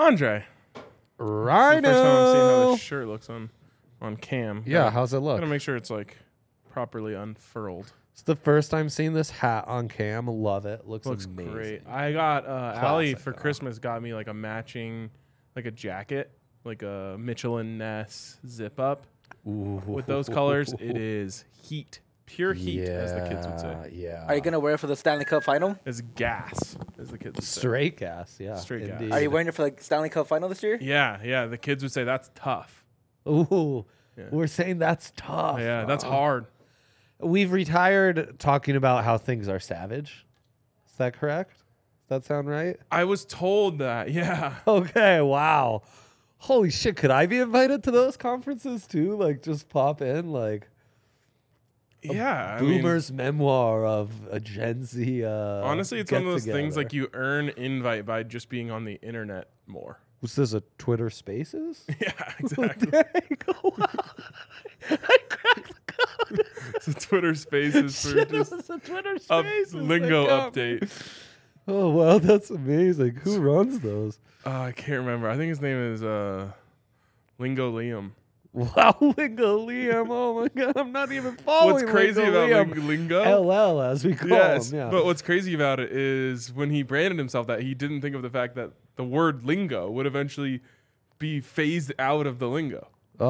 Andre. Rhino. It's the first time I'm seeing how this shirt looks on cam. Yeah, how's it look? Gotta make sure it's like properly unfurled. It's the first time seeing this hat on cam. Love it. Looks amazing. Great. I got Allie for though. Christmas got me like a matching, like a jacket, like a Michelin Ness zip up. Ooh. With those colors, it is heat. Pure heat, as the kids would say. Yeah. Are you gonna wear it for the Stanley Cup final? It's gas, as the kids would say. Straight gas? Yeah. Straight gas. indeed. Are you wearing it for the Stanley Cup final this year? Yeah. The kids would say that's tough. Ooh. Yeah. We're saying that's tough. Yeah, that's hard. We've retired talking about how things are savage. Is that correct? Does that sound right? I was told that. Yeah. Okay, wow. Holy shit, could I be invited to those conferences too? Like just pop in like Yeah. Boomer's memoir of a Gen Z Honestly, it's one of those things get-together. like you earn invite by just being on the internet more. Was this a Twitter Spaces? Yeah, exactly. There you go. I cracked the code. So Twitter Spaces for Shit, just it was a Twitter a Spaces. lingo that got me. update. Oh wow, that's amazing. Who runs those? I can't remember. I think his name is Lingo Liam. Wow, Lingo Liam. Oh my god, I'm not even following. What's crazy Lingo about Liam. Lingo? LL as we call Yes, him. Yeah. but what's crazy about it is when he branded himself that he didn't think of the fact that the word lingo would eventually be phased out of the lingo.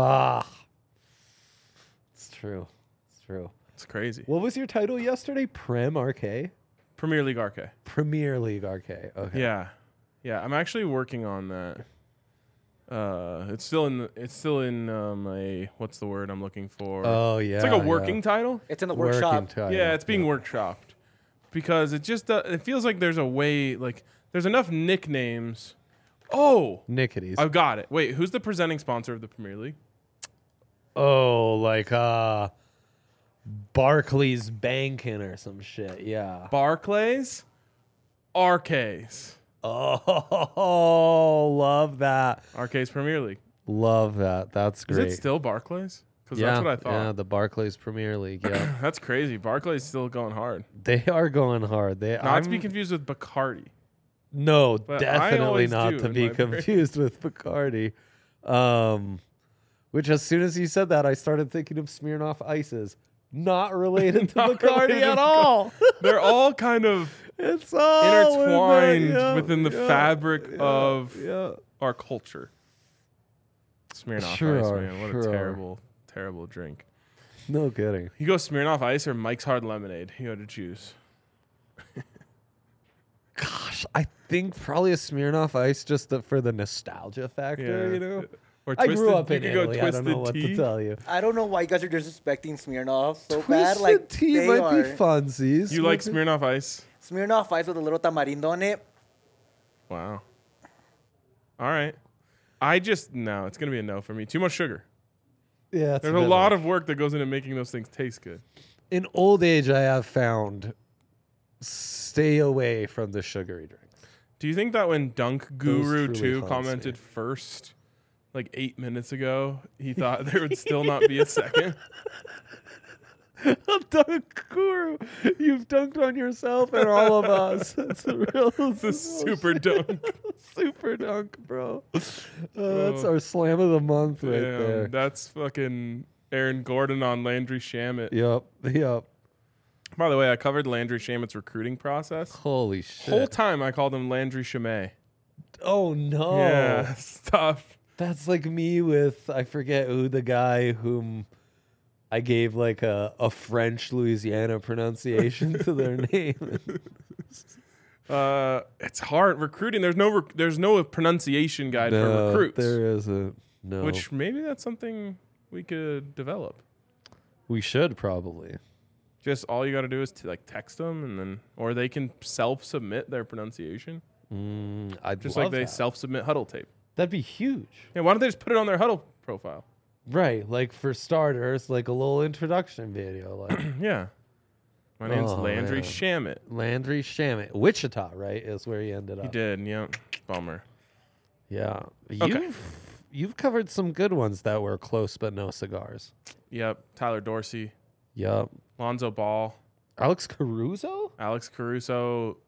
It's true. It's true. It's crazy. What was your title yesterday? Prem RK? Premier League RK. Premier League RK. Okay. Yeah. I'm actually working on that. It's still in a what's the word I'm looking for? Oh yeah. It's like a working title. It's in the Working workshop. title. Yeah, it's being workshopped because it just it feels like there's a way like there's enough nicknames. Oh, Nickities. I've got it. Wait, who's the presenting sponsor of the Premier League? Oh, like Barclays Banking or some shit. Yeah. Barclays, RKs. Oh, love that. RK's Premier League. Love that. That's great. Is it still Barclays? Because yeah, that's what I thought. Yeah, the Barclays Premier League. Yeah. That's crazy. Barclays still going hard. They are going hard. Not to be confused with Bacardi. No, I definitely always not do to in be my brain. confused with Bacardi. Which as soon as you said that, I started thinking of Smirnoff Ices. Not related to Not Bacardi related at to all. They're all kind of It's all intertwined within the fabric of Yeah. our culture. Smirnoff Sure Ice, are, man. What sure a are. terrible, terrible drink. No kidding. You go Smirnoff Ice or Mike's Hard Lemonade. You got to choose. Gosh, I think probably a Smirnoff Ice just for the nostalgia factor, you know? Or I Twisted, grew up you in could go Italy. I don't know what Twisted to Tea. tell you. I don't know why you guys are disrespecting Smirnoff so Twisted bad. Like tea they might are. be funsies. You like Smirnoff Ice? Smirnoff Ice with a little tamarindo on it. Wow. All right. No, it's going to be a no for me. Too much sugar. Yeah, There's a lot of work that goes into making those things taste good. In old age, I have found stay away from the sugary drinks. Do you think that when Dunk Guru truly 2 haunts commented me. first, like 8 minutes ago, he thought there would still not be a second? Dunk Guru, you've dunked on yourself and all of us. It's a real The super dunk. super dunk, bro. That's our slam of the month right Damn, there. that's fucking Aaron Gordon on Landry Shamet. Yep. By the way, I covered Landry Shamet's recruiting process. Holy shit. Whole time I called him Landry Shamet. Oh no. Yeah, stuff. That's like me with I forget who the guy whom I gave like a French Louisiana pronunciation to their name. It's hard recruiting. There's no pronunciation guide for recruits. There isn't. No. Which maybe that's something we could develop. we should probably. Just all you got to do is to like text them, and then or they can self-submit their pronunciation, I'd just love like they that. self-submit Huddle Tape. That'd be huge. Yeah, why don't they just put it on their Huddle profile? Right, like for starters, like a little introduction video, like Yeah. My name's Oh, Landry man. Shamet. Landry Shamet, Wichita, right, is where he ended up. He did, yeah. Bummer. Yeah, Okay. you've covered some good ones that were close but no cigars. Yep. Tyler Dorsey, Yup. Lonzo Ball, Alex Caruso. Alex Caruso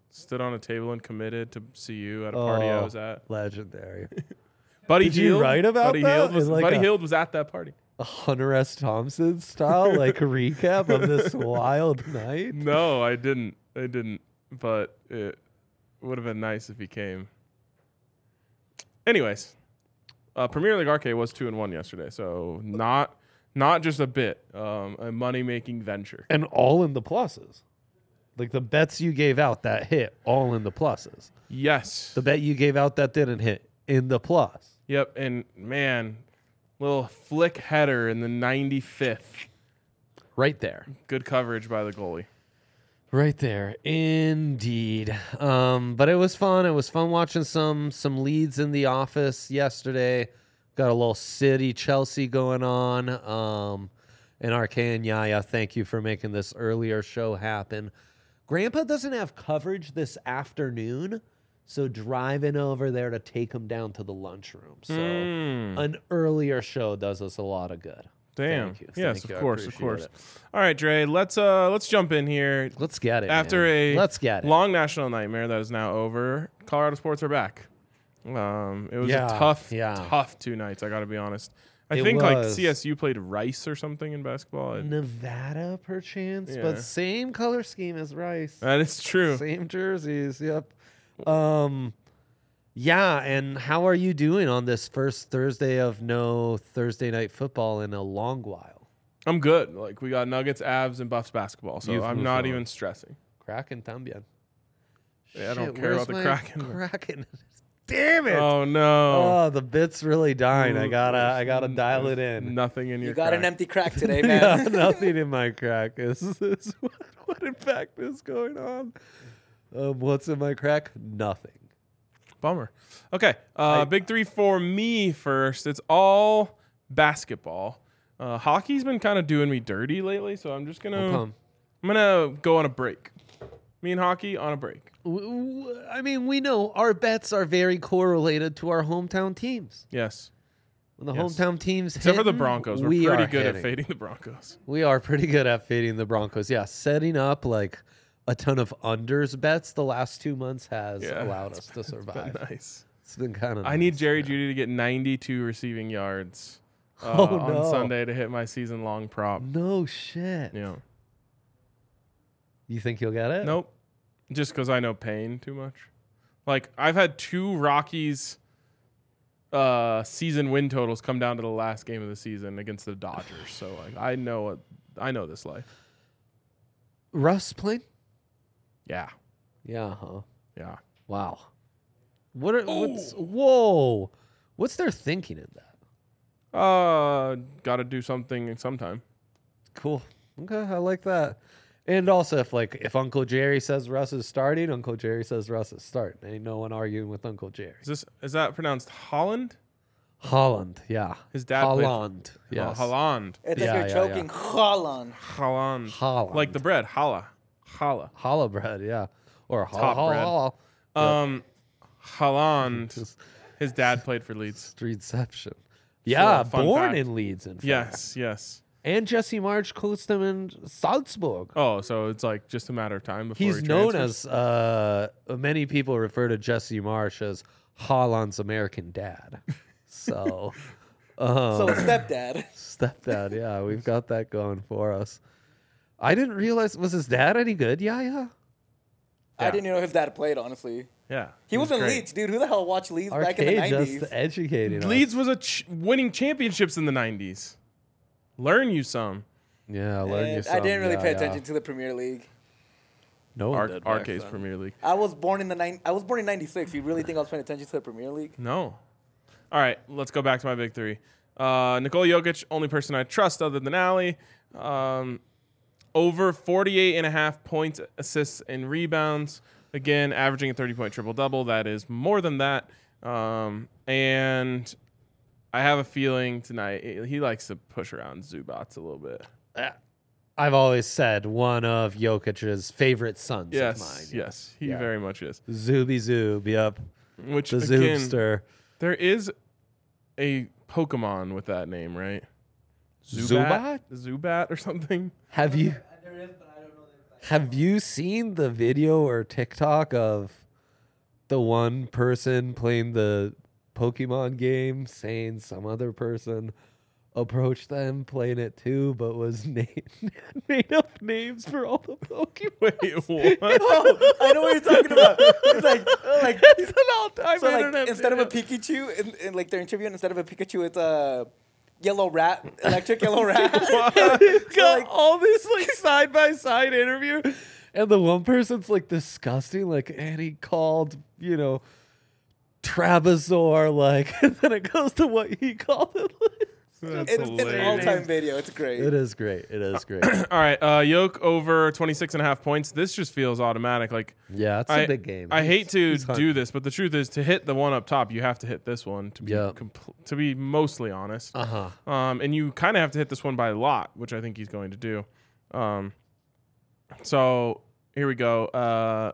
Stood on a table and committed to see you at a party I was at. Legendary. Buddy Did you Hield, write about Buddy that? Hield was, In like Buddy a- Hield was at that party. A Hunter S. Thompson style, like a recap of this wild night. No, I didn't. But it would have been nice if he came. Anyways, Premier League Arcade was 2-1 yesterday, so not just a bit, a money making venture. And all in the pluses. Like the bets you gave out that hit, all in the pluses. Yes. The bet you gave out that didn't hit, in the plus. Yep. And man, little flick header in the 95th. Right there. Good coverage by the goalie. Right there, indeed. But it was fun. It was fun watching some leads in the office yesterday. Got a little City Chelsea going on. And RK and Yaya, thank you for making this earlier show happen. Grandpa doesn't have coverage this afternoon, so driving over there to take him down to the lunchroom. So an earlier show does us a lot of good. Damn. Thank you. Yes, Thank you. of I course. appreciate it. All right, Dre, let's jump in here. Let's get it. After man. a Let's get it. long national nightmare that is now over, Colorado sports are back. It was Yeah, a tough 2 nights, I got to be honest. I It think like was. CSU played Rice or something in basketball. Nevada, perchance, Yeah. but same color scheme as Rice. That is true. Same jerseys. Yep. Yeah. And how are you doing on this first Thursday of no Thursday night football in a long while? I'm good. Like we got Nuggets, Avs, and Buffs basketball, so You've I'm moved not on. even stressing. Kraken también. Yeah, I don't Shit, care where's about the my Kraken. Kraken. Damn it. Oh no! Oh, the bit's really dying. I gotta dial it in. Nothing in your. You got an crack. empty crack today, Yeah, man. nothing in my crack. Is what in fact is going on? What's in my crack? Nothing. Bummer. Okay, big three for me first. It's all basketball. Hockey's been kind of doing me dirty lately, so I'm just gonna I'm gonna go on a break. Me and hockey on a break. I mean, we know our bets are very correlated to our hometown teams. Yes, When the Yes. hometown teams except for the hitting, Broncos, we're we pretty are good at hitting. fading the Broncos. We are pretty good at fading the Broncos. Yeah, setting up like a ton of unders bets the last 2 months has Yeah, allowed us to Been survive. nice. It's been kind of. I need Jerry Jeudy to get 92 receiving yards Oh, on no. Sunday to hit my season-long prop. No shit. Yeah. You think you'll get it? Nope. Just because I know Payne too much. Like, I've had 2 Rockies season win totals come down to the last game of the season against the Dodgers. So, like, I know this life. Russ playing? Yeah. Yeah, huh? Yeah. Wow. Whoa. What's their thinking in that? Got to do something sometime. Cool. Okay, I like that. And also, if Uncle Jerry says Russ is starting, Uncle Jerry says Russ is starting. Ain't no one arguing with Uncle Jerry. Is that pronounced Holland? Holland, yeah. His dad played- Holland, yes. Holland. It's Yeah, like you're yeah, choking. Holland. Holland. Holland. Like the bread. Challah. Challah bread, yeah. Or Top bread. Holland. His dad played for Leeds. Streetception. Yeah, fun born fact. in Leeds, in fact. Yes. And Jesse March coached him in Salzburg. Oh, so it's like just a matter of time before He's he known transfers? as many people refer to Jesse Marsh as Holland's American dad. So, So stepdad. stepdad, yeah, we've got that going for us. I didn't realize, was his dad any good? Yeah. Yeah. I didn't even know his dad played, honestly. Yeah. He was in great. Leeds, dude. Who the hell watched Leeds back in the Arcade 90s? just educating us. Leeds was winning championships in the 90s. Learn you some. Yeah, learn you And some. I didn't really yeah, pay yeah. attention to the Premier League. No one did back Arcade's then. Premier League. I was born in '96. You really think I was paying attention to the Premier League? No. All right, let's go back to my big three. Nikola Jokic, only person I trust other than Ali. Over 48.5 points, assists, and rebounds. Again, averaging a 30-point triple-double. That is more than that. And I have a feeling tonight he likes to push around Zubats a little bit. I've always said one of Jokic's favorite sons of mine. Yes, he Yeah. very much is. Zooby Zoob, yep. Which, The again, Zoobster. there is a Pokemon with that name, right? Zubat? Zubat or something? Have you? There is, but I don't know the exact Have you seen the video or TikTok of the one person playing the Pokemon game saying some other person approached them playing it too, but was made up names for all the Pokemon? Wait, what? Oh, I know what you're talking about. It's like It's an all-time so internet like instead of a video. Pikachu, in like they're interviewing, instead of a Pikachu, it's a yellow rat, electric yellow rat. It's got like- all this like side by side interview, and the one person's like disgusting, like, and he called, Travasaur, like, and then it goes to what he called it. That's It's an hilarious. all-time video. It's great. It is great. It is great. All right, Yoke over 26.5 points. This just feels automatic. Like Yeah, it's a big game. I hate to he's do this, but the truth is, to hit the one up top, you have to hit this one to be Yeah. to be mostly honest. Uh-huh. And you kind of have to hit this one by a lot, which I think he's going to do. So here we go.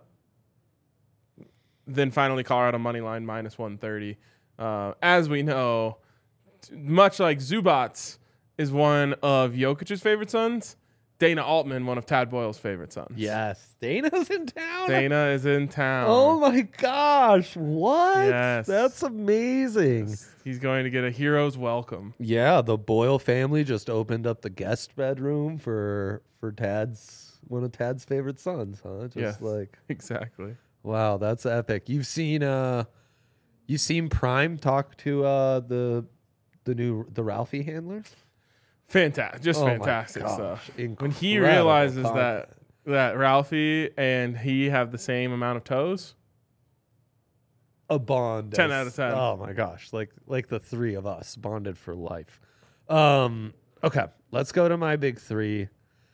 Then finally, Colorado money line minus 130. As we know, much like Zubats is one of Jokic's favorite sons, Dana Altman, one of Tad Boyle's favorite sons. Yes. Dana's in town. Dana is in town. Oh my gosh. What? Yes. That's amazing. He's going to get a hero's welcome. Yeah, the Boyle family just opened up the guest bedroom for one of Tad's favorite sons, huh? Just Yes. like, Exactly. wow, that's epic. You've seen Prime talk to the Ralphie handlers? Fantastic. Just Oh my fantastic gosh, stuff. When he incredible realizes content. that Ralphie and he have the same amount of toes, A bond. 10 out of 10. Oh my gosh, like the three of us bonded for life. Okay, let's go to my big three.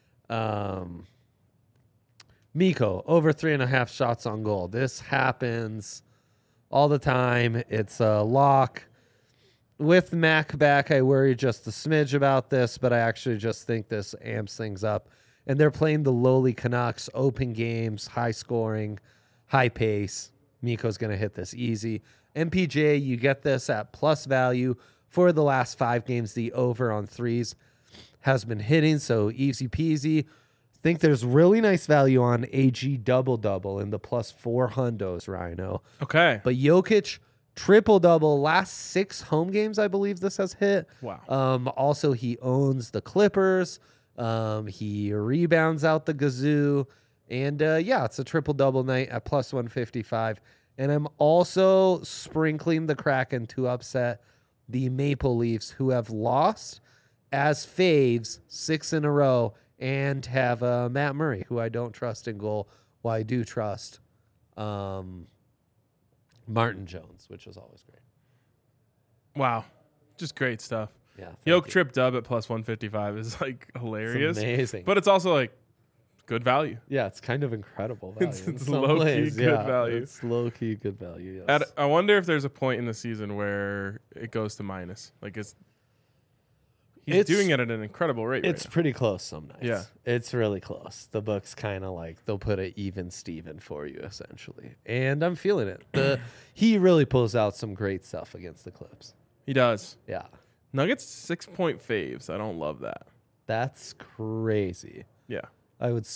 Miko over 3.5 shots on goal. This happens all the time. It's a lock. With Mac back, I worry just a smidge about this, but I actually just think this amps things up. And they're playing the lowly Canucks, open games, high scoring, high pace. Miko's going to hit this easy. MPJ, you get this at plus value for the last 5 games. The over on threes has been hitting, so easy peasy. Think there's really nice value on AG double-double in the plus 4 hundos, Rhino. okay. But Jokic, triple-double, last 6 home games, I believe this has hit. Wow. Also, he owns the Clippers. He rebounds out the Gazoo. And, yeah, it's a triple-double night at plus 155. And I'm also sprinkling the Kraken to upset the Maple Leafs, who have lost as faves 6 in a row, and have Matt Murray, who I don't trust in goal, while I do trust Martin Jones, which is always great. Wow. Just great stuff. Yeah, thank Yoke you. trip dub at plus 155 is like hilarious. It's amazing. But it's also like good value. Yeah, it's kind of incredible value. It's in some low-key ways, good yeah. value. It's low-key good value, yes. I wonder if there's a point in the season where it goes to minus. Like he's doing it at an incredible rate. It's right pretty close some nights. Yeah. It's really close. The book's kind of like they'll put it even Steven for you, essentially. And I'm feeling it. He really pulls out some great stuff against the Clips. now. He does. Yeah. Nuggets 6-point faves. I don't love that. That's crazy. Yeah. I would,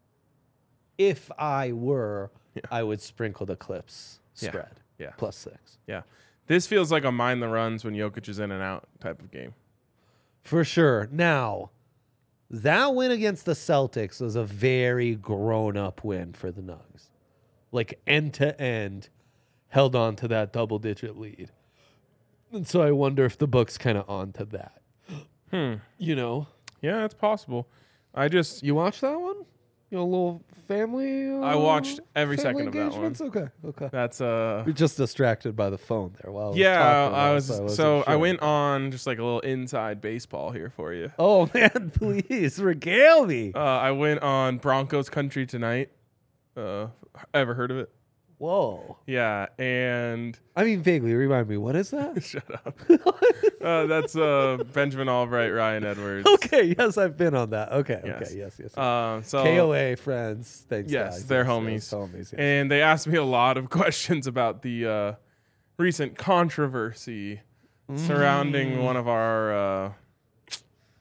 if I were, I would sprinkle the Clips Yeah. spread. Yeah. Plus 6. Yeah. This feels like a mind the runs when Jokic is in and out type of game. For sure. Now, that win against the Celtics was a very grown-up win for the Nugs. Like, end-to-end, held on to that double-digit lead. And so I wonder if the book's kind of on to that. You know? Yeah, it's possible. You watched that one? A little family? I watched every family second of that one. engagements? Okay. That's You're just distracted by the phone there while I was yeah, talking I about it, was wasn't so I sure. went on just like a little inside baseball here for you. Oh, man, please, regale me. I went on Broncos Country Tonight. Ever heard of it? Whoa. Yeah, and I mean, vaguely, remind me, what is that? shut up. That's Benjamin Albright, Ryan Edwards. Okay, yes, I've been on that. Okay, Yes. okay, yes. So KOA friends, thanks. Yes, guys. they're Yes, homies. yes, homies. Yes. And they asked me a lot of questions about the recent controversy surrounding one of our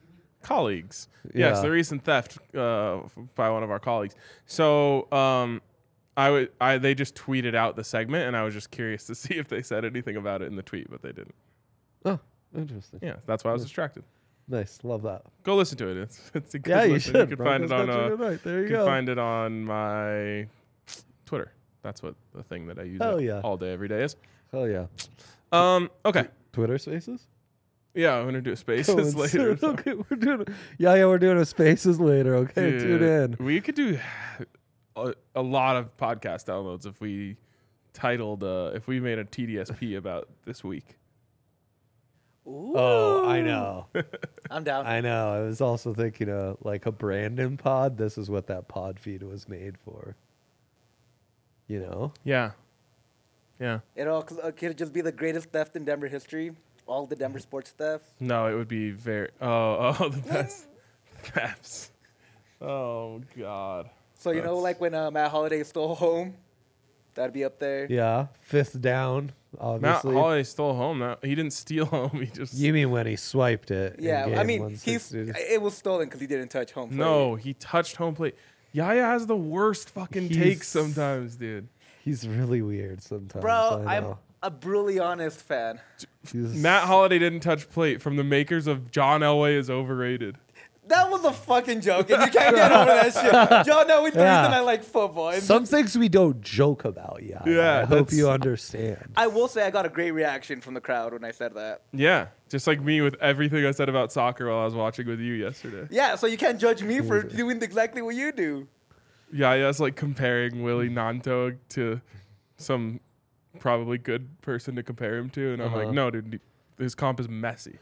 colleagues. Yeah. Yes, the recent theft by one of our colleagues. So they just tweeted out the segment, and I was just curious to see if they said anything about it in the tweet, but they didn't. Oh, interesting. Yeah, that's why I was distracted. Nice. Love that. Go listen to it. It's a good Yeah, you listen. should. You can find it on There you can go. find it on my Twitter. That's what the thing that I use all day, every day is. Hell yeah. Okay. Twitter Spaces? Yeah, I'm gonna do Spaces later. So. Okay, we're doing a Spaces later. Okay, Dude, tune in. We could do a lot of podcast downloads if we titled if we made a TDSP about this week. Ooh. Oh, I know. I'm down. I know. I was also thinking of like a Brandon pod. This is what that pod feed was made for. You know? Yeah. Yeah. Could just be the greatest theft in Denver history. All the Denver sports thefts. No, it would be very. Oh, the best thefts. Oh God. So you know, like when Matt Holliday stole home, that'd be up there. Yeah. Fifth down, obviously. Matt Holliday stole home. No, he didn't steal home. He just. You mean when he swiped it? Yeah, in I game mean, 160? it was stolen because he didn't touch home plate. No, he touched home plate. Yaya has the worst fucking takes sometimes, dude. He's really weird sometimes. Bro, I I'm know. a brutally honest fan. Matt Holliday didn't touch plate from the makers of John Elway is overrated. That was a fucking joke, and you can't get over that shit. John Elway's the reason I like football. And Some things we don't joke about, yeah. Yeah, I hope you understand. I will say I got a great reaction from the crowd when I said that. Yeah, just like me with everything I said about soccer while I was watching with you yesterday. Yeah, so you can't judge me for doing exactly what you do. Yaya's like comparing Willie Nanto to some probably good person to compare him to, and I'm like, no, dude, his comp is messy.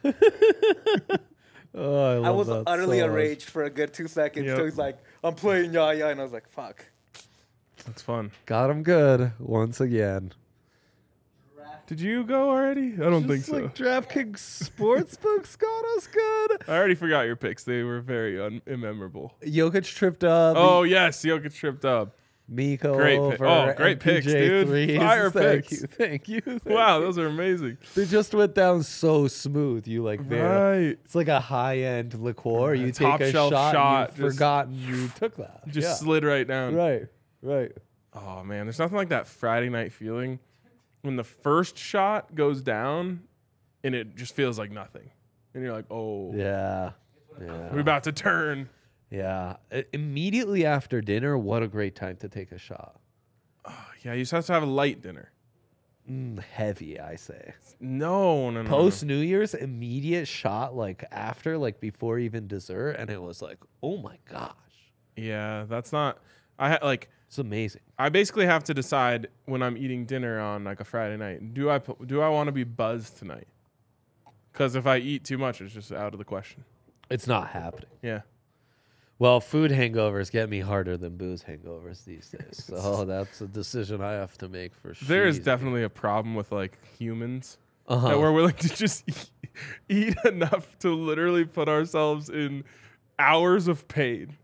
Oh, I was that utterly so much. enraged for a good 2 seconds. Yep. So he's like, I'm playing Yaya, and I was like, fuck. That's fun. Got him good once again. Did you go already? I don't think Just so. like DraftKings Sportsbooks got us good. I already forgot your picks. They were very immemorable. Jokic tripped up. Oh yes, Jokic tripped up. Miko Great over pick. Oh, great picks, dude. threes. Fire Thank picks. you, thank you. Wow, those are amazing. They just went down so smooth. You like very. Right. It's like a high-end liqueur. You Top take a shelf shot. shot, You've just- forgotten you took that. Just Yeah. slid right down. Right. Right. Oh man, there's nothing like that Friday night feeling when the first shot goes down and it just feels like nothing. And you're like, oh, Yeah. Yeah. we're about to turn. Yeah. Immediately after dinner, what a great time to take a shot. Yeah, you just have to have a light dinner. Heavy, I say. No. Post New Year's, immediate shot, like after, like before even dessert, and it was like, oh my gosh, Yeah, that's not. it's amazing. I basically have to decide when I'm eating dinner on like a Friday night. Do I want to be buzzed tonight? Because if I eat too much, it's just out of the question. It's not happening. Yeah. Well, food hangovers get me harder than booze hangovers these days. So that's a decision I have to make for sure. There is definitely a problem with like humans that Uh-huh. we're willing to just eat enough to literally put ourselves in hours of pain.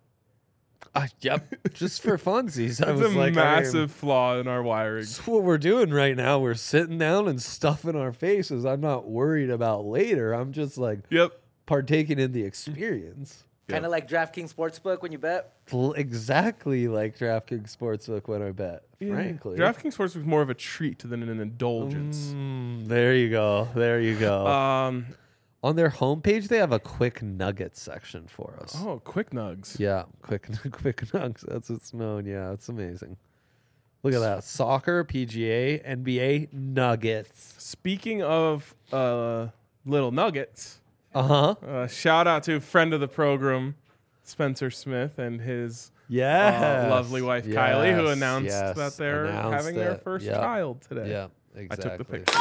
Yep, just for funsies. That's I was a like, massive flaw in our wiring. That's what we're doing right now. We're sitting down and stuffing our faces. I'm not worried about later. I'm just like Yep. partaking in the experience. Kind of like DraftKings Sportsbook when you bet. Exactly like DraftKings Sportsbook when I bet, frankly. DraftKings Sports was more of a treat than an indulgence. There you go. There you go. Um. On their homepage, they have a quick nuggets section for us. Oh, quick nugs. Yeah, quick nuggets. That's what's known. Yeah, it's amazing. Look at that. Soccer, PGA, NBA, nuggets. Speaking of little nuggets, Uh-huh. shout out to friend of the program, Spencer Smith, and his Yeah. lovely wife Kylie, who announced yes, that they're announced having their it. first Yep. child today. Yeah, I exactly. took the picture.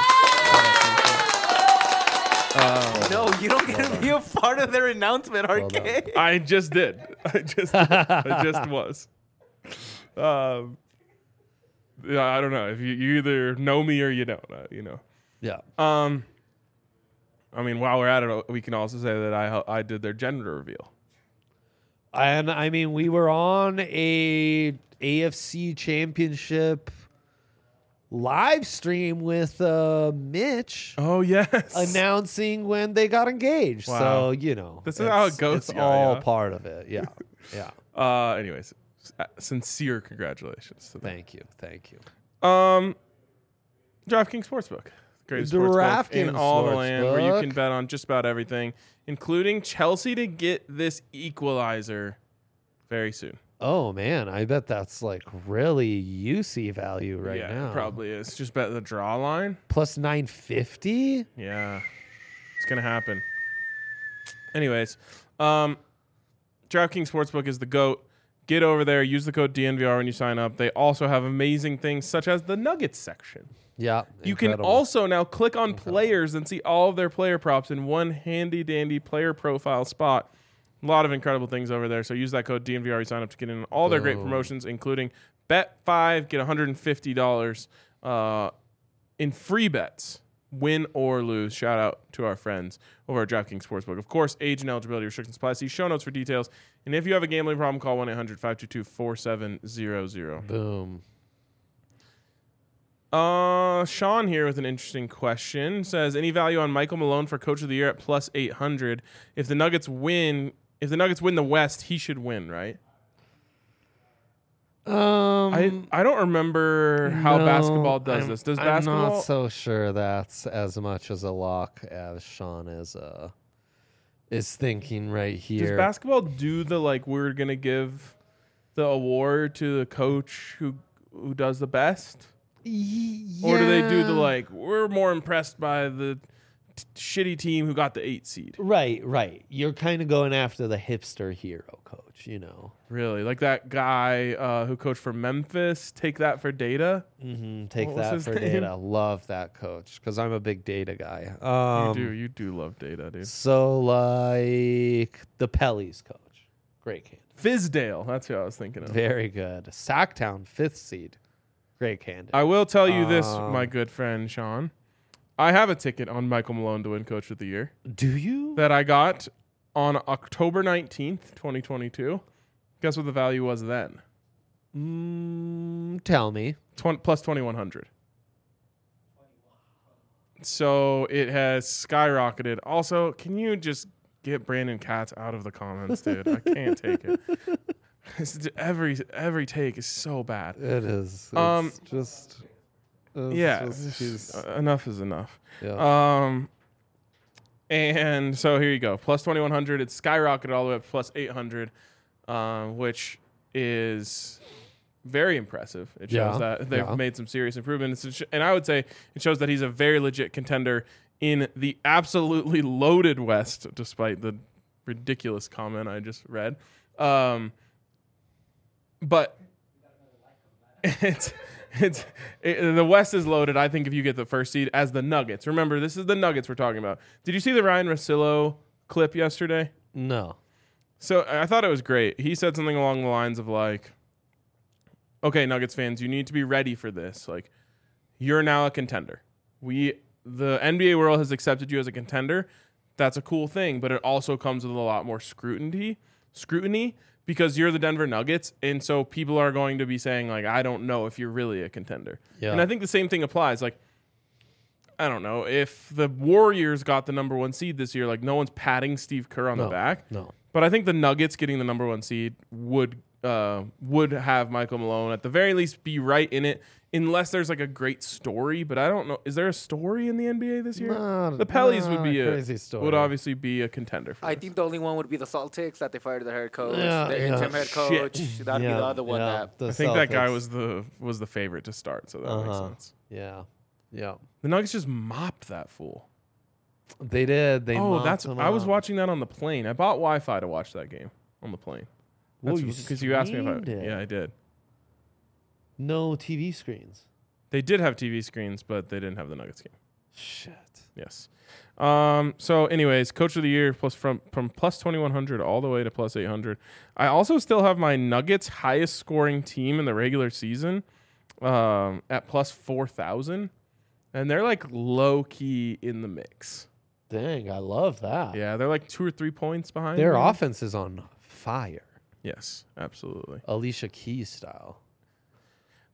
No, you don't get to be a part of their announcement, RK. I just did. I just was. Yeah, I don't know if you either know me or you don't. You know. Yeah. I mean, while we're at it, we can also say that I did their gender reveal. And I mean, we were on a AFC championship live stream with Mitch Oh yes. announcing when they got engaged. Wow. So, This is how it goes, It's yeah, all yeah. part of it. Yeah. Yeah. Anyways, sincere congratulations to them. Thank you. DraftKings Sportsbook. Greatest sportsbook in DraftKings all the land where you can Sportsbook. bet on just about everything, including Chelsea to get this equalizer very soon. Oh man, I bet that's like really UC value right yeah, now. it probably is. Just bet the draw line. Plus 950? Yeah. It's going to happen. Anyways, DraftKings Sportsbook is the GOAT. Get over there. Use the code DNVR when you sign up. They also have amazing things such as the Nuggets section. Yeah. You can also now click on players and see all of their player props in one handy dandy player profile spot. A lot of incredible things over there. So use that code DNVR when you sign up to get in all their great promotions, including bet 5, get $150 in free bets. Win or lose. Shout out to our friends over at DraftKings Sportsbook. Of course, age and eligibility restrictions apply. See show notes for details. And if you have a gambling problem, call 1-800-522-4700. Boom. Sean here with an interesting question. Says, any value on Michael Malone for Coach of the Year at plus 800? If the Nuggets win the West, he should win, right? I don't remember how basketball does this. Does basketball? I'm not so sure that's as much as a lock as Sean is thinking right here. Does basketball do the we're gonna give the award to the coach who does the best? Yeah. Or do they do the we're more impressed by the shitty team who got the 8 seed? Right. You're kind of going after the hipster hero coach, Really? Like that guy who coached for Memphis? Take that for data? Mm-hmm. Take What was that his for name? data. Love that coach because I'm a big data guy. You do love data, dude. So like the Pelly's coach. Great candidate. Fizdale, that's who I was thinking of. Very good. Sacktown, 5th seed. Great candidate. I will tell you this, my good friend Sean. I have a ticket on Michael Malone to win Coach of the Year Do you? that I got on October 19th, 2022. Guess what the value was then? Tell me. Plus 2,100. So it has skyrocketed. Also, can you just get Brandon Katz out of the comments, dude? I can't take it. Every take is so bad. It is. Enough is enough. Yeah. And so here you go. Plus 2,100. It's skyrocketed all the way up to plus 800, which is very impressive. It shows that they've made some serious improvements. And I would say it shows that he's a very legit contender in the absolutely loaded West, despite the ridiculous comment I just read. But the West is loaded. I think if you get the first seed as the Nuggets. Remember, this is the Nuggets we're talking about. Did you see the Ryan Russillo clip yesterday? No. So I thought it was great. He said something along the lines of okay, Nuggets fans, you need to be ready for this. You're now a contender. The NBA world has accepted you as a contender. That's a cool thing, but it also comes with a lot more scrutiny because you're the Denver Nuggets, and so people are going to be saying, I don't know if you're really a contender. Yeah. And I think the same thing applies. I don't know. If the Warriors got the number 1 seed this year, no one's patting Steve Kerr on the back. No. But I think the Nuggets getting the number 1 seed would have Michael Malone at the very least be right in it, unless there's a great story. But I don't know. Is there a story in the NBA this year? The Pellies would be crazy story. Would obviously be a contender for I this. think the only one would be the Celtics that they fired their head coach, Yeah, the interim head coach. That'd be the other one. I think that guy was the favorite to start, so that makes sense. Yeah. The Nuggets just mopped that fool. They did. They mopped him I was up. watching that on the plane. I bought Wi-Fi to watch that game on the plane. Because you asked me if I did. No TV screens. They did have TV screens, but they didn't have the Nuggets game. Shit. Yes. So anyways, Coach of the Year from plus 2,100 all the way to plus 800. I also still have my Nuggets highest scoring team in the regular season at plus 4,000. And they're low key in the mix. Dang, I love that. Yeah, they're 2 or 3 points behind. Their me. offense is on fire. Yes, absolutely. Alicia Keys style.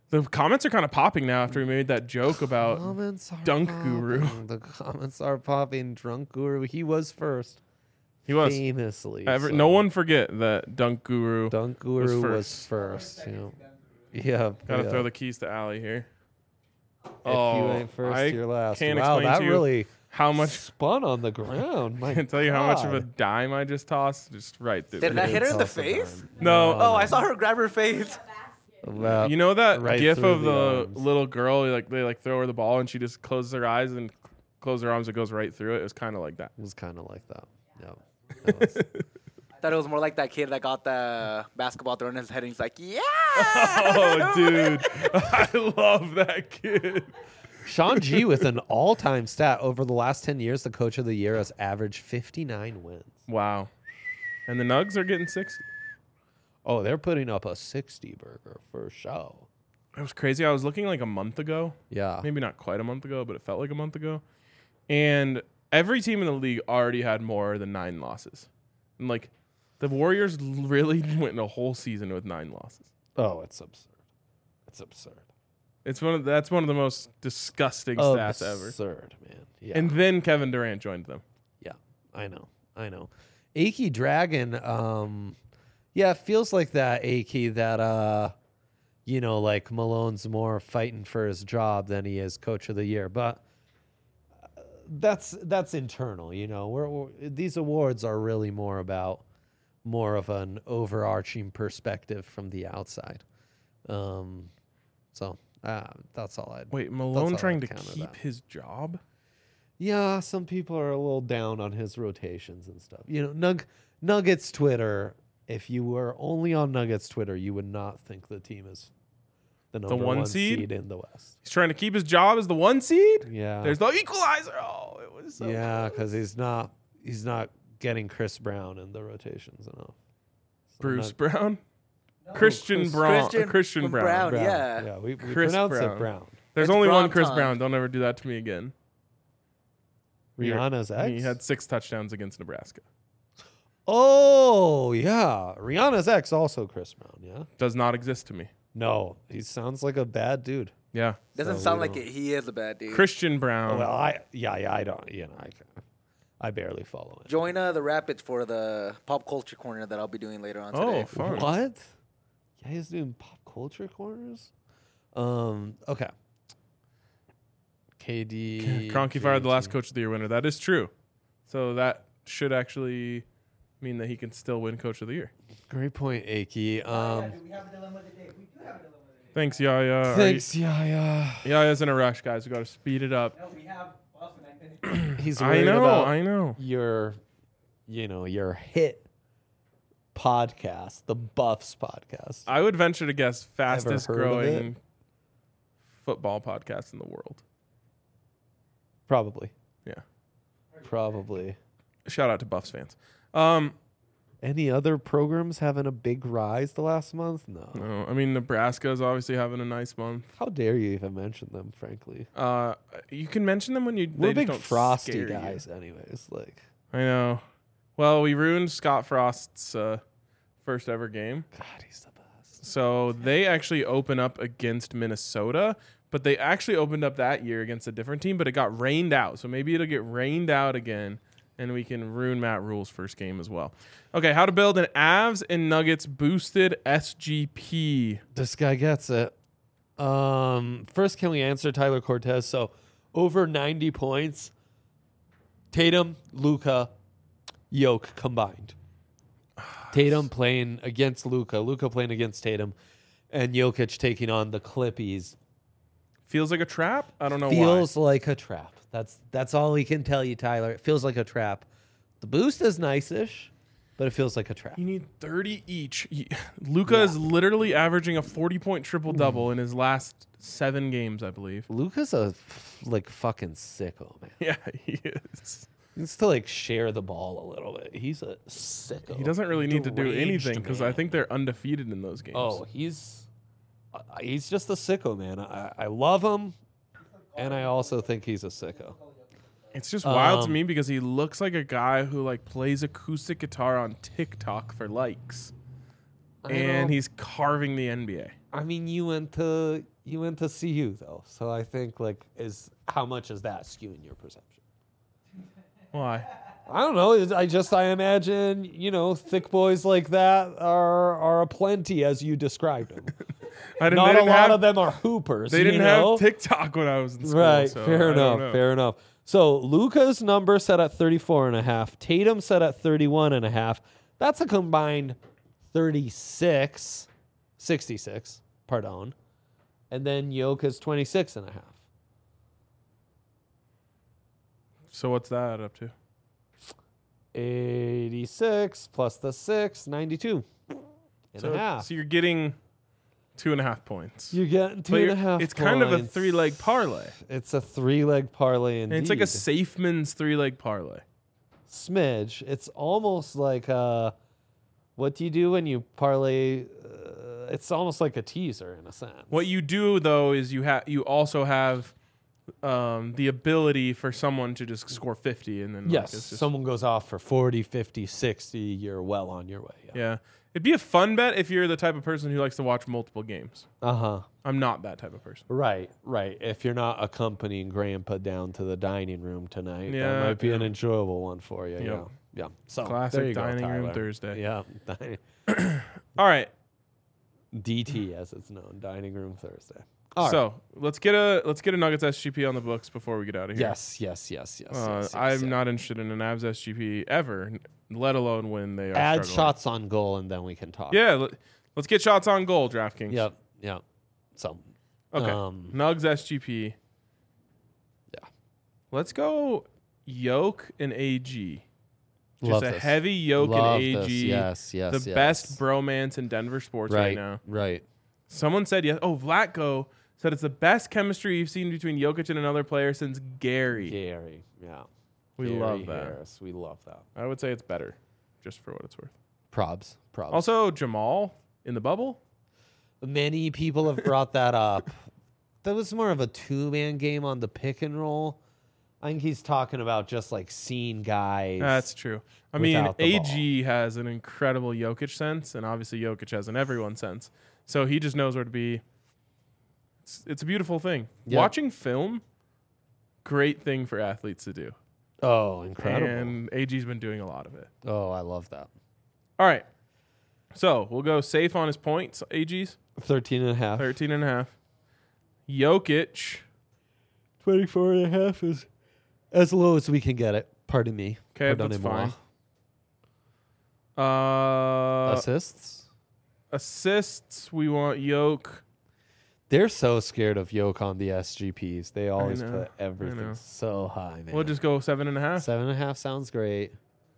The comments are kind of popping now after we made that joke about Dunk Guru. The comments are popping. Drunk Guru. He was first. He was. Famously. No one forget that Dunk Guru was first. Yeah. Gotta throw the keys to Allie here. If you ain't first, you're last. Can't wow, explain that to you really how much spun on the ground. I can't tell you how much of a dime I just tossed. Just right through. Did I hit her in the face? No. Oh, I saw her grab her face. Well, you know that right gif of the arms. little girl, they throw her the ball and she just closes her eyes and closes her arms. It goes right through it. It was kind of like that. It was kind of like that. Yeah. I thought it was more like that kid that got the basketball thrown in his head and he's like, yeah. Oh, dude. I love that kid. Sean G with an all-time stat. Over the last 10 years, the coach of the year has averaged 59 wins. Wow. And the Nugs are getting 60. Oh, they're putting up a 60 burger for show. It was crazy. I was looking like a month ago. Yeah. Maybe not quite a month ago, but it felt like a month ago. And every team in the league already had more than 9 losses. And like the Warriors really went a whole season with 9 losses. Oh, it's absurd. It's absurd. That's one of the most disgusting stats ever. Absurd, man. Yeah. And then Kevin Durant joined them. Yeah, I know. Aki Dragon, yeah, it feels like that, Aki, that, like Malone's more fighting for his job than he is coach of the year. But that's internal, these awards are really more of an overarching perspective from the outside. So that's all I'd... Wait, Malone trying to keep his job? Yeah, some people are a little down on his rotations and stuff. Nuggets Twitter, if you were only on Nuggets Twitter, you would not think the team is the number one seed in the West. He's trying to keep his job as the 1 seed? Yeah. There's the equalizer. Oh, it was so because he's not getting Chris Brown in the rotations enough. So Bruce Brown? No, Christian Brown. Yeah. Yeah, we Chris pronounce Brown. it Brown. There's only one Chris Brown. Don't ever do that to me again. Rihanna's ex? He had 6 touchdowns against Nebraska. Oh, yeah. Rihanna's ex also Chris Brown, yeah? Does not exist to me. No, he sounds like a bad dude. Yeah. Doesn't sound like it. He is a bad dude. Christian Brown. Oh, well, I don't, I barely follow it. Join the Rapids for the pop culture corner that I'll be doing later on today. Oh, fun. What? Yeah, he's doing pop culture corners? Okay. KD. Kroenke fired the last coach of the year winner. That is true. So that should actually mean that he can still win coach of the year. Great point, Aki. We have a dilemma today. We do have a dilemma today. Thanks, Yaya. Thanks, Yaya. Yaya's in a rush, guys. We got to speed it up. No, we have Boston. He's worried I know. Your hit podcast, the Buffs podcast. I would venture to guess fastest Ever heard of growing football podcast in the world. Probably. Yeah. Probably. Shout out to Buffs fans. Any other programs having a big rise the last month? No. No, I mean Nebraska is obviously having a nice month. How dare you even mention them? Frankly, you can mention them when we're they big don't Frosty scare guys, you. anyways. Like, I know. Well, we ruined Scott Frost's first ever game. God, he's the best. So they actually open up against Minnesota, but they actually opened up that year against a different team, but it got rained out. So maybe it'll get rained out again, and we can ruin Matt Rule's first game as well. Okay, how to build an Avs and Nuggets boosted SGP. This guy gets it. First, can we answer Tyler Cortez? So, over 90 points. Tatum, Luka, Yoke combined. Tatum playing against Luka playing against Tatum, and Jokic taking on the Clippies. Feels like a trap? I don't know why. Feels like a trap. That's all we can tell you, Tyler. It feels like a trap. The boost is nice-ish, but it feels like a trap. You need 30 each. Luka is literally averaging a 40-point triple-double in his last 7 games, I believe. Luka's a fucking sicko, man. Yeah, he is. He needs to share the ball a little bit. He's a sicko. He doesn't really need to do Deranged anything because I man. think they're undefeated in those games. Oh, he's just a sicko, man. I love him, and I also think he's a sicko. It's just wild to me because he looks like a guy who plays acoustic guitar on TikTok for likes. And he's carving the NBA. I mean, you went to You went to CU though, so I think is how much is that skewing your perception? Why? I don't know. I imagine thick boys like that are aplenty as you described them. Not a lot of them are hoopers. They didn't have TikTok when I was in school. Right. So Fair enough. So Luka's number set at 34.5. Tatum set at 31.5. That's a combined 66. Pardon. And then Jokic 26.5. So what's that up to? 86 plus the 6, 92 and a half. So you're getting 2.5 points. You're getting 2.5 points. It's kind of a 3-leg parlay. It's a 3-leg parlay indeed. And it's like a Safeman's 3-leg parlay. Smidge. It's almost like what do you do when you parlay? It's almost like a teaser in a sense. What you do though is you also have the ability for someone to just score 50 and then yes, someone goes off for 40, 50, 60, you're well on your way. Yeah. It'd be a fun bet if you're the type of person who likes to watch multiple games. Uh-huh. I'm not that type of person. Right. If you're not accompanying Grandpa down to the dining room tonight, that might be an enjoyable one for you. Yep. Yeah. So classic dining room Thursday. Yeah. All right. DT as it's known, Dining Room Thursday. Let's get a Nuggets SGP on the books before we get out of here. Yes. I'm not interested in an Avs SGP ever, let alone when they are add struggling. shots on goal and then we can talk. Yeah, let's get shots on goal, DraftKings. Yep. So okay, Nugs SGP. Yeah, let's go. Yoke and AG. Love Just a this. heavy Yoke Love and AG. this. Yes. The best bromance in Denver sports right now. Right. Someone said yes. Oh, Vlatko said it's the best chemistry you've seen between Jokic and another player since Gary. Yeah. We Gary love that. Harris. We love that. I would say it's better, just for what it's worth. Probs. Also, Jamal in the bubble. Many people have brought that up. That was more of a two-man game on the pick and roll. I think he's talking about just like seeing guys. That's true. I mean, the AG has an incredible Jokic sense, and obviously Jokic has an everyone sense. So he just knows where to be. It's a beautiful thing. Yep. Watching film, great thing for athletes to do. Oh, incredible. And AG's been doing a lot of it. Oh, I love that. All right. So we'll go safe on his points. AG's 13.5. 13.5. Jokic 24.5 is as low as we can get it. Pardon me. Okay, that's fine. Assists, we want Yoke. They're so scared of Yoke on the SGPs. They always put everything so high, man. We'll just go 7.5. 7.5 sounds great.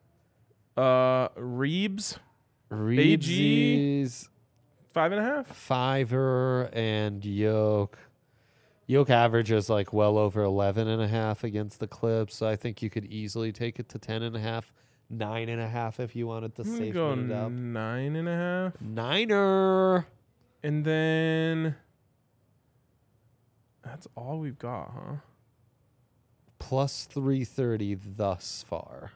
Reebs. Reebs. 5.5. Fiver and Yoke. Yoke averages like well over 11.5 against the Clips. So I think you could easily take it to 10.5. 9.5 if you wanted to safely go it up. 9.5. Niner. And then that's all we've got, huh? Plus 330 thus far.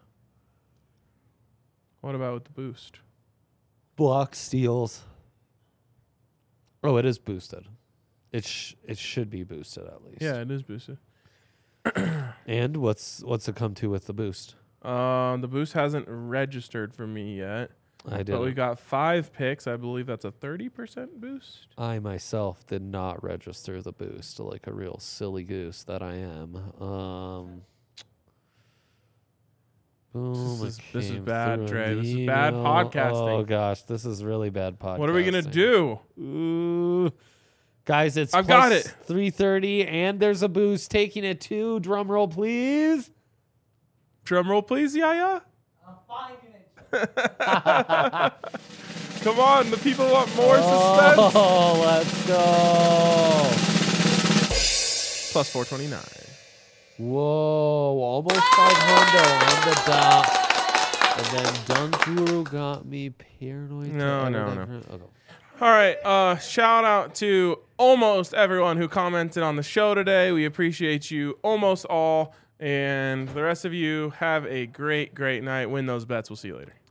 What about with the boost? Block steals. Oh, it is boosted. It should be boosted at least. Yeah, it is boosted. And what's it come to with the boost? The boost hasn't registered for me yet. I did. But we got 5 picks. I believe that's a 30% boost. I myself did not register the boost like a real silly goose that I am. Boom, this is bad, Trey. This is bad podcasting. Oh gosh, this is really bad podcasting. What are we gonna do? Ooh. Guys, it's I've got it. 330, and there's a boost taking it to. Drum roll, please. Drum roll, please, Yaya. I'm finding it. Come on, the people want more suspense. Oh, let's go. Plus 429. Whoa, almost 500 on the dot. And then Dunkuru got me paranoid. No. Okay. All right, shout out to almost everyone who commented on the show today. We appreciate you almost all. And the rest of you, have a great, great night. Win those bets. We'll see you later.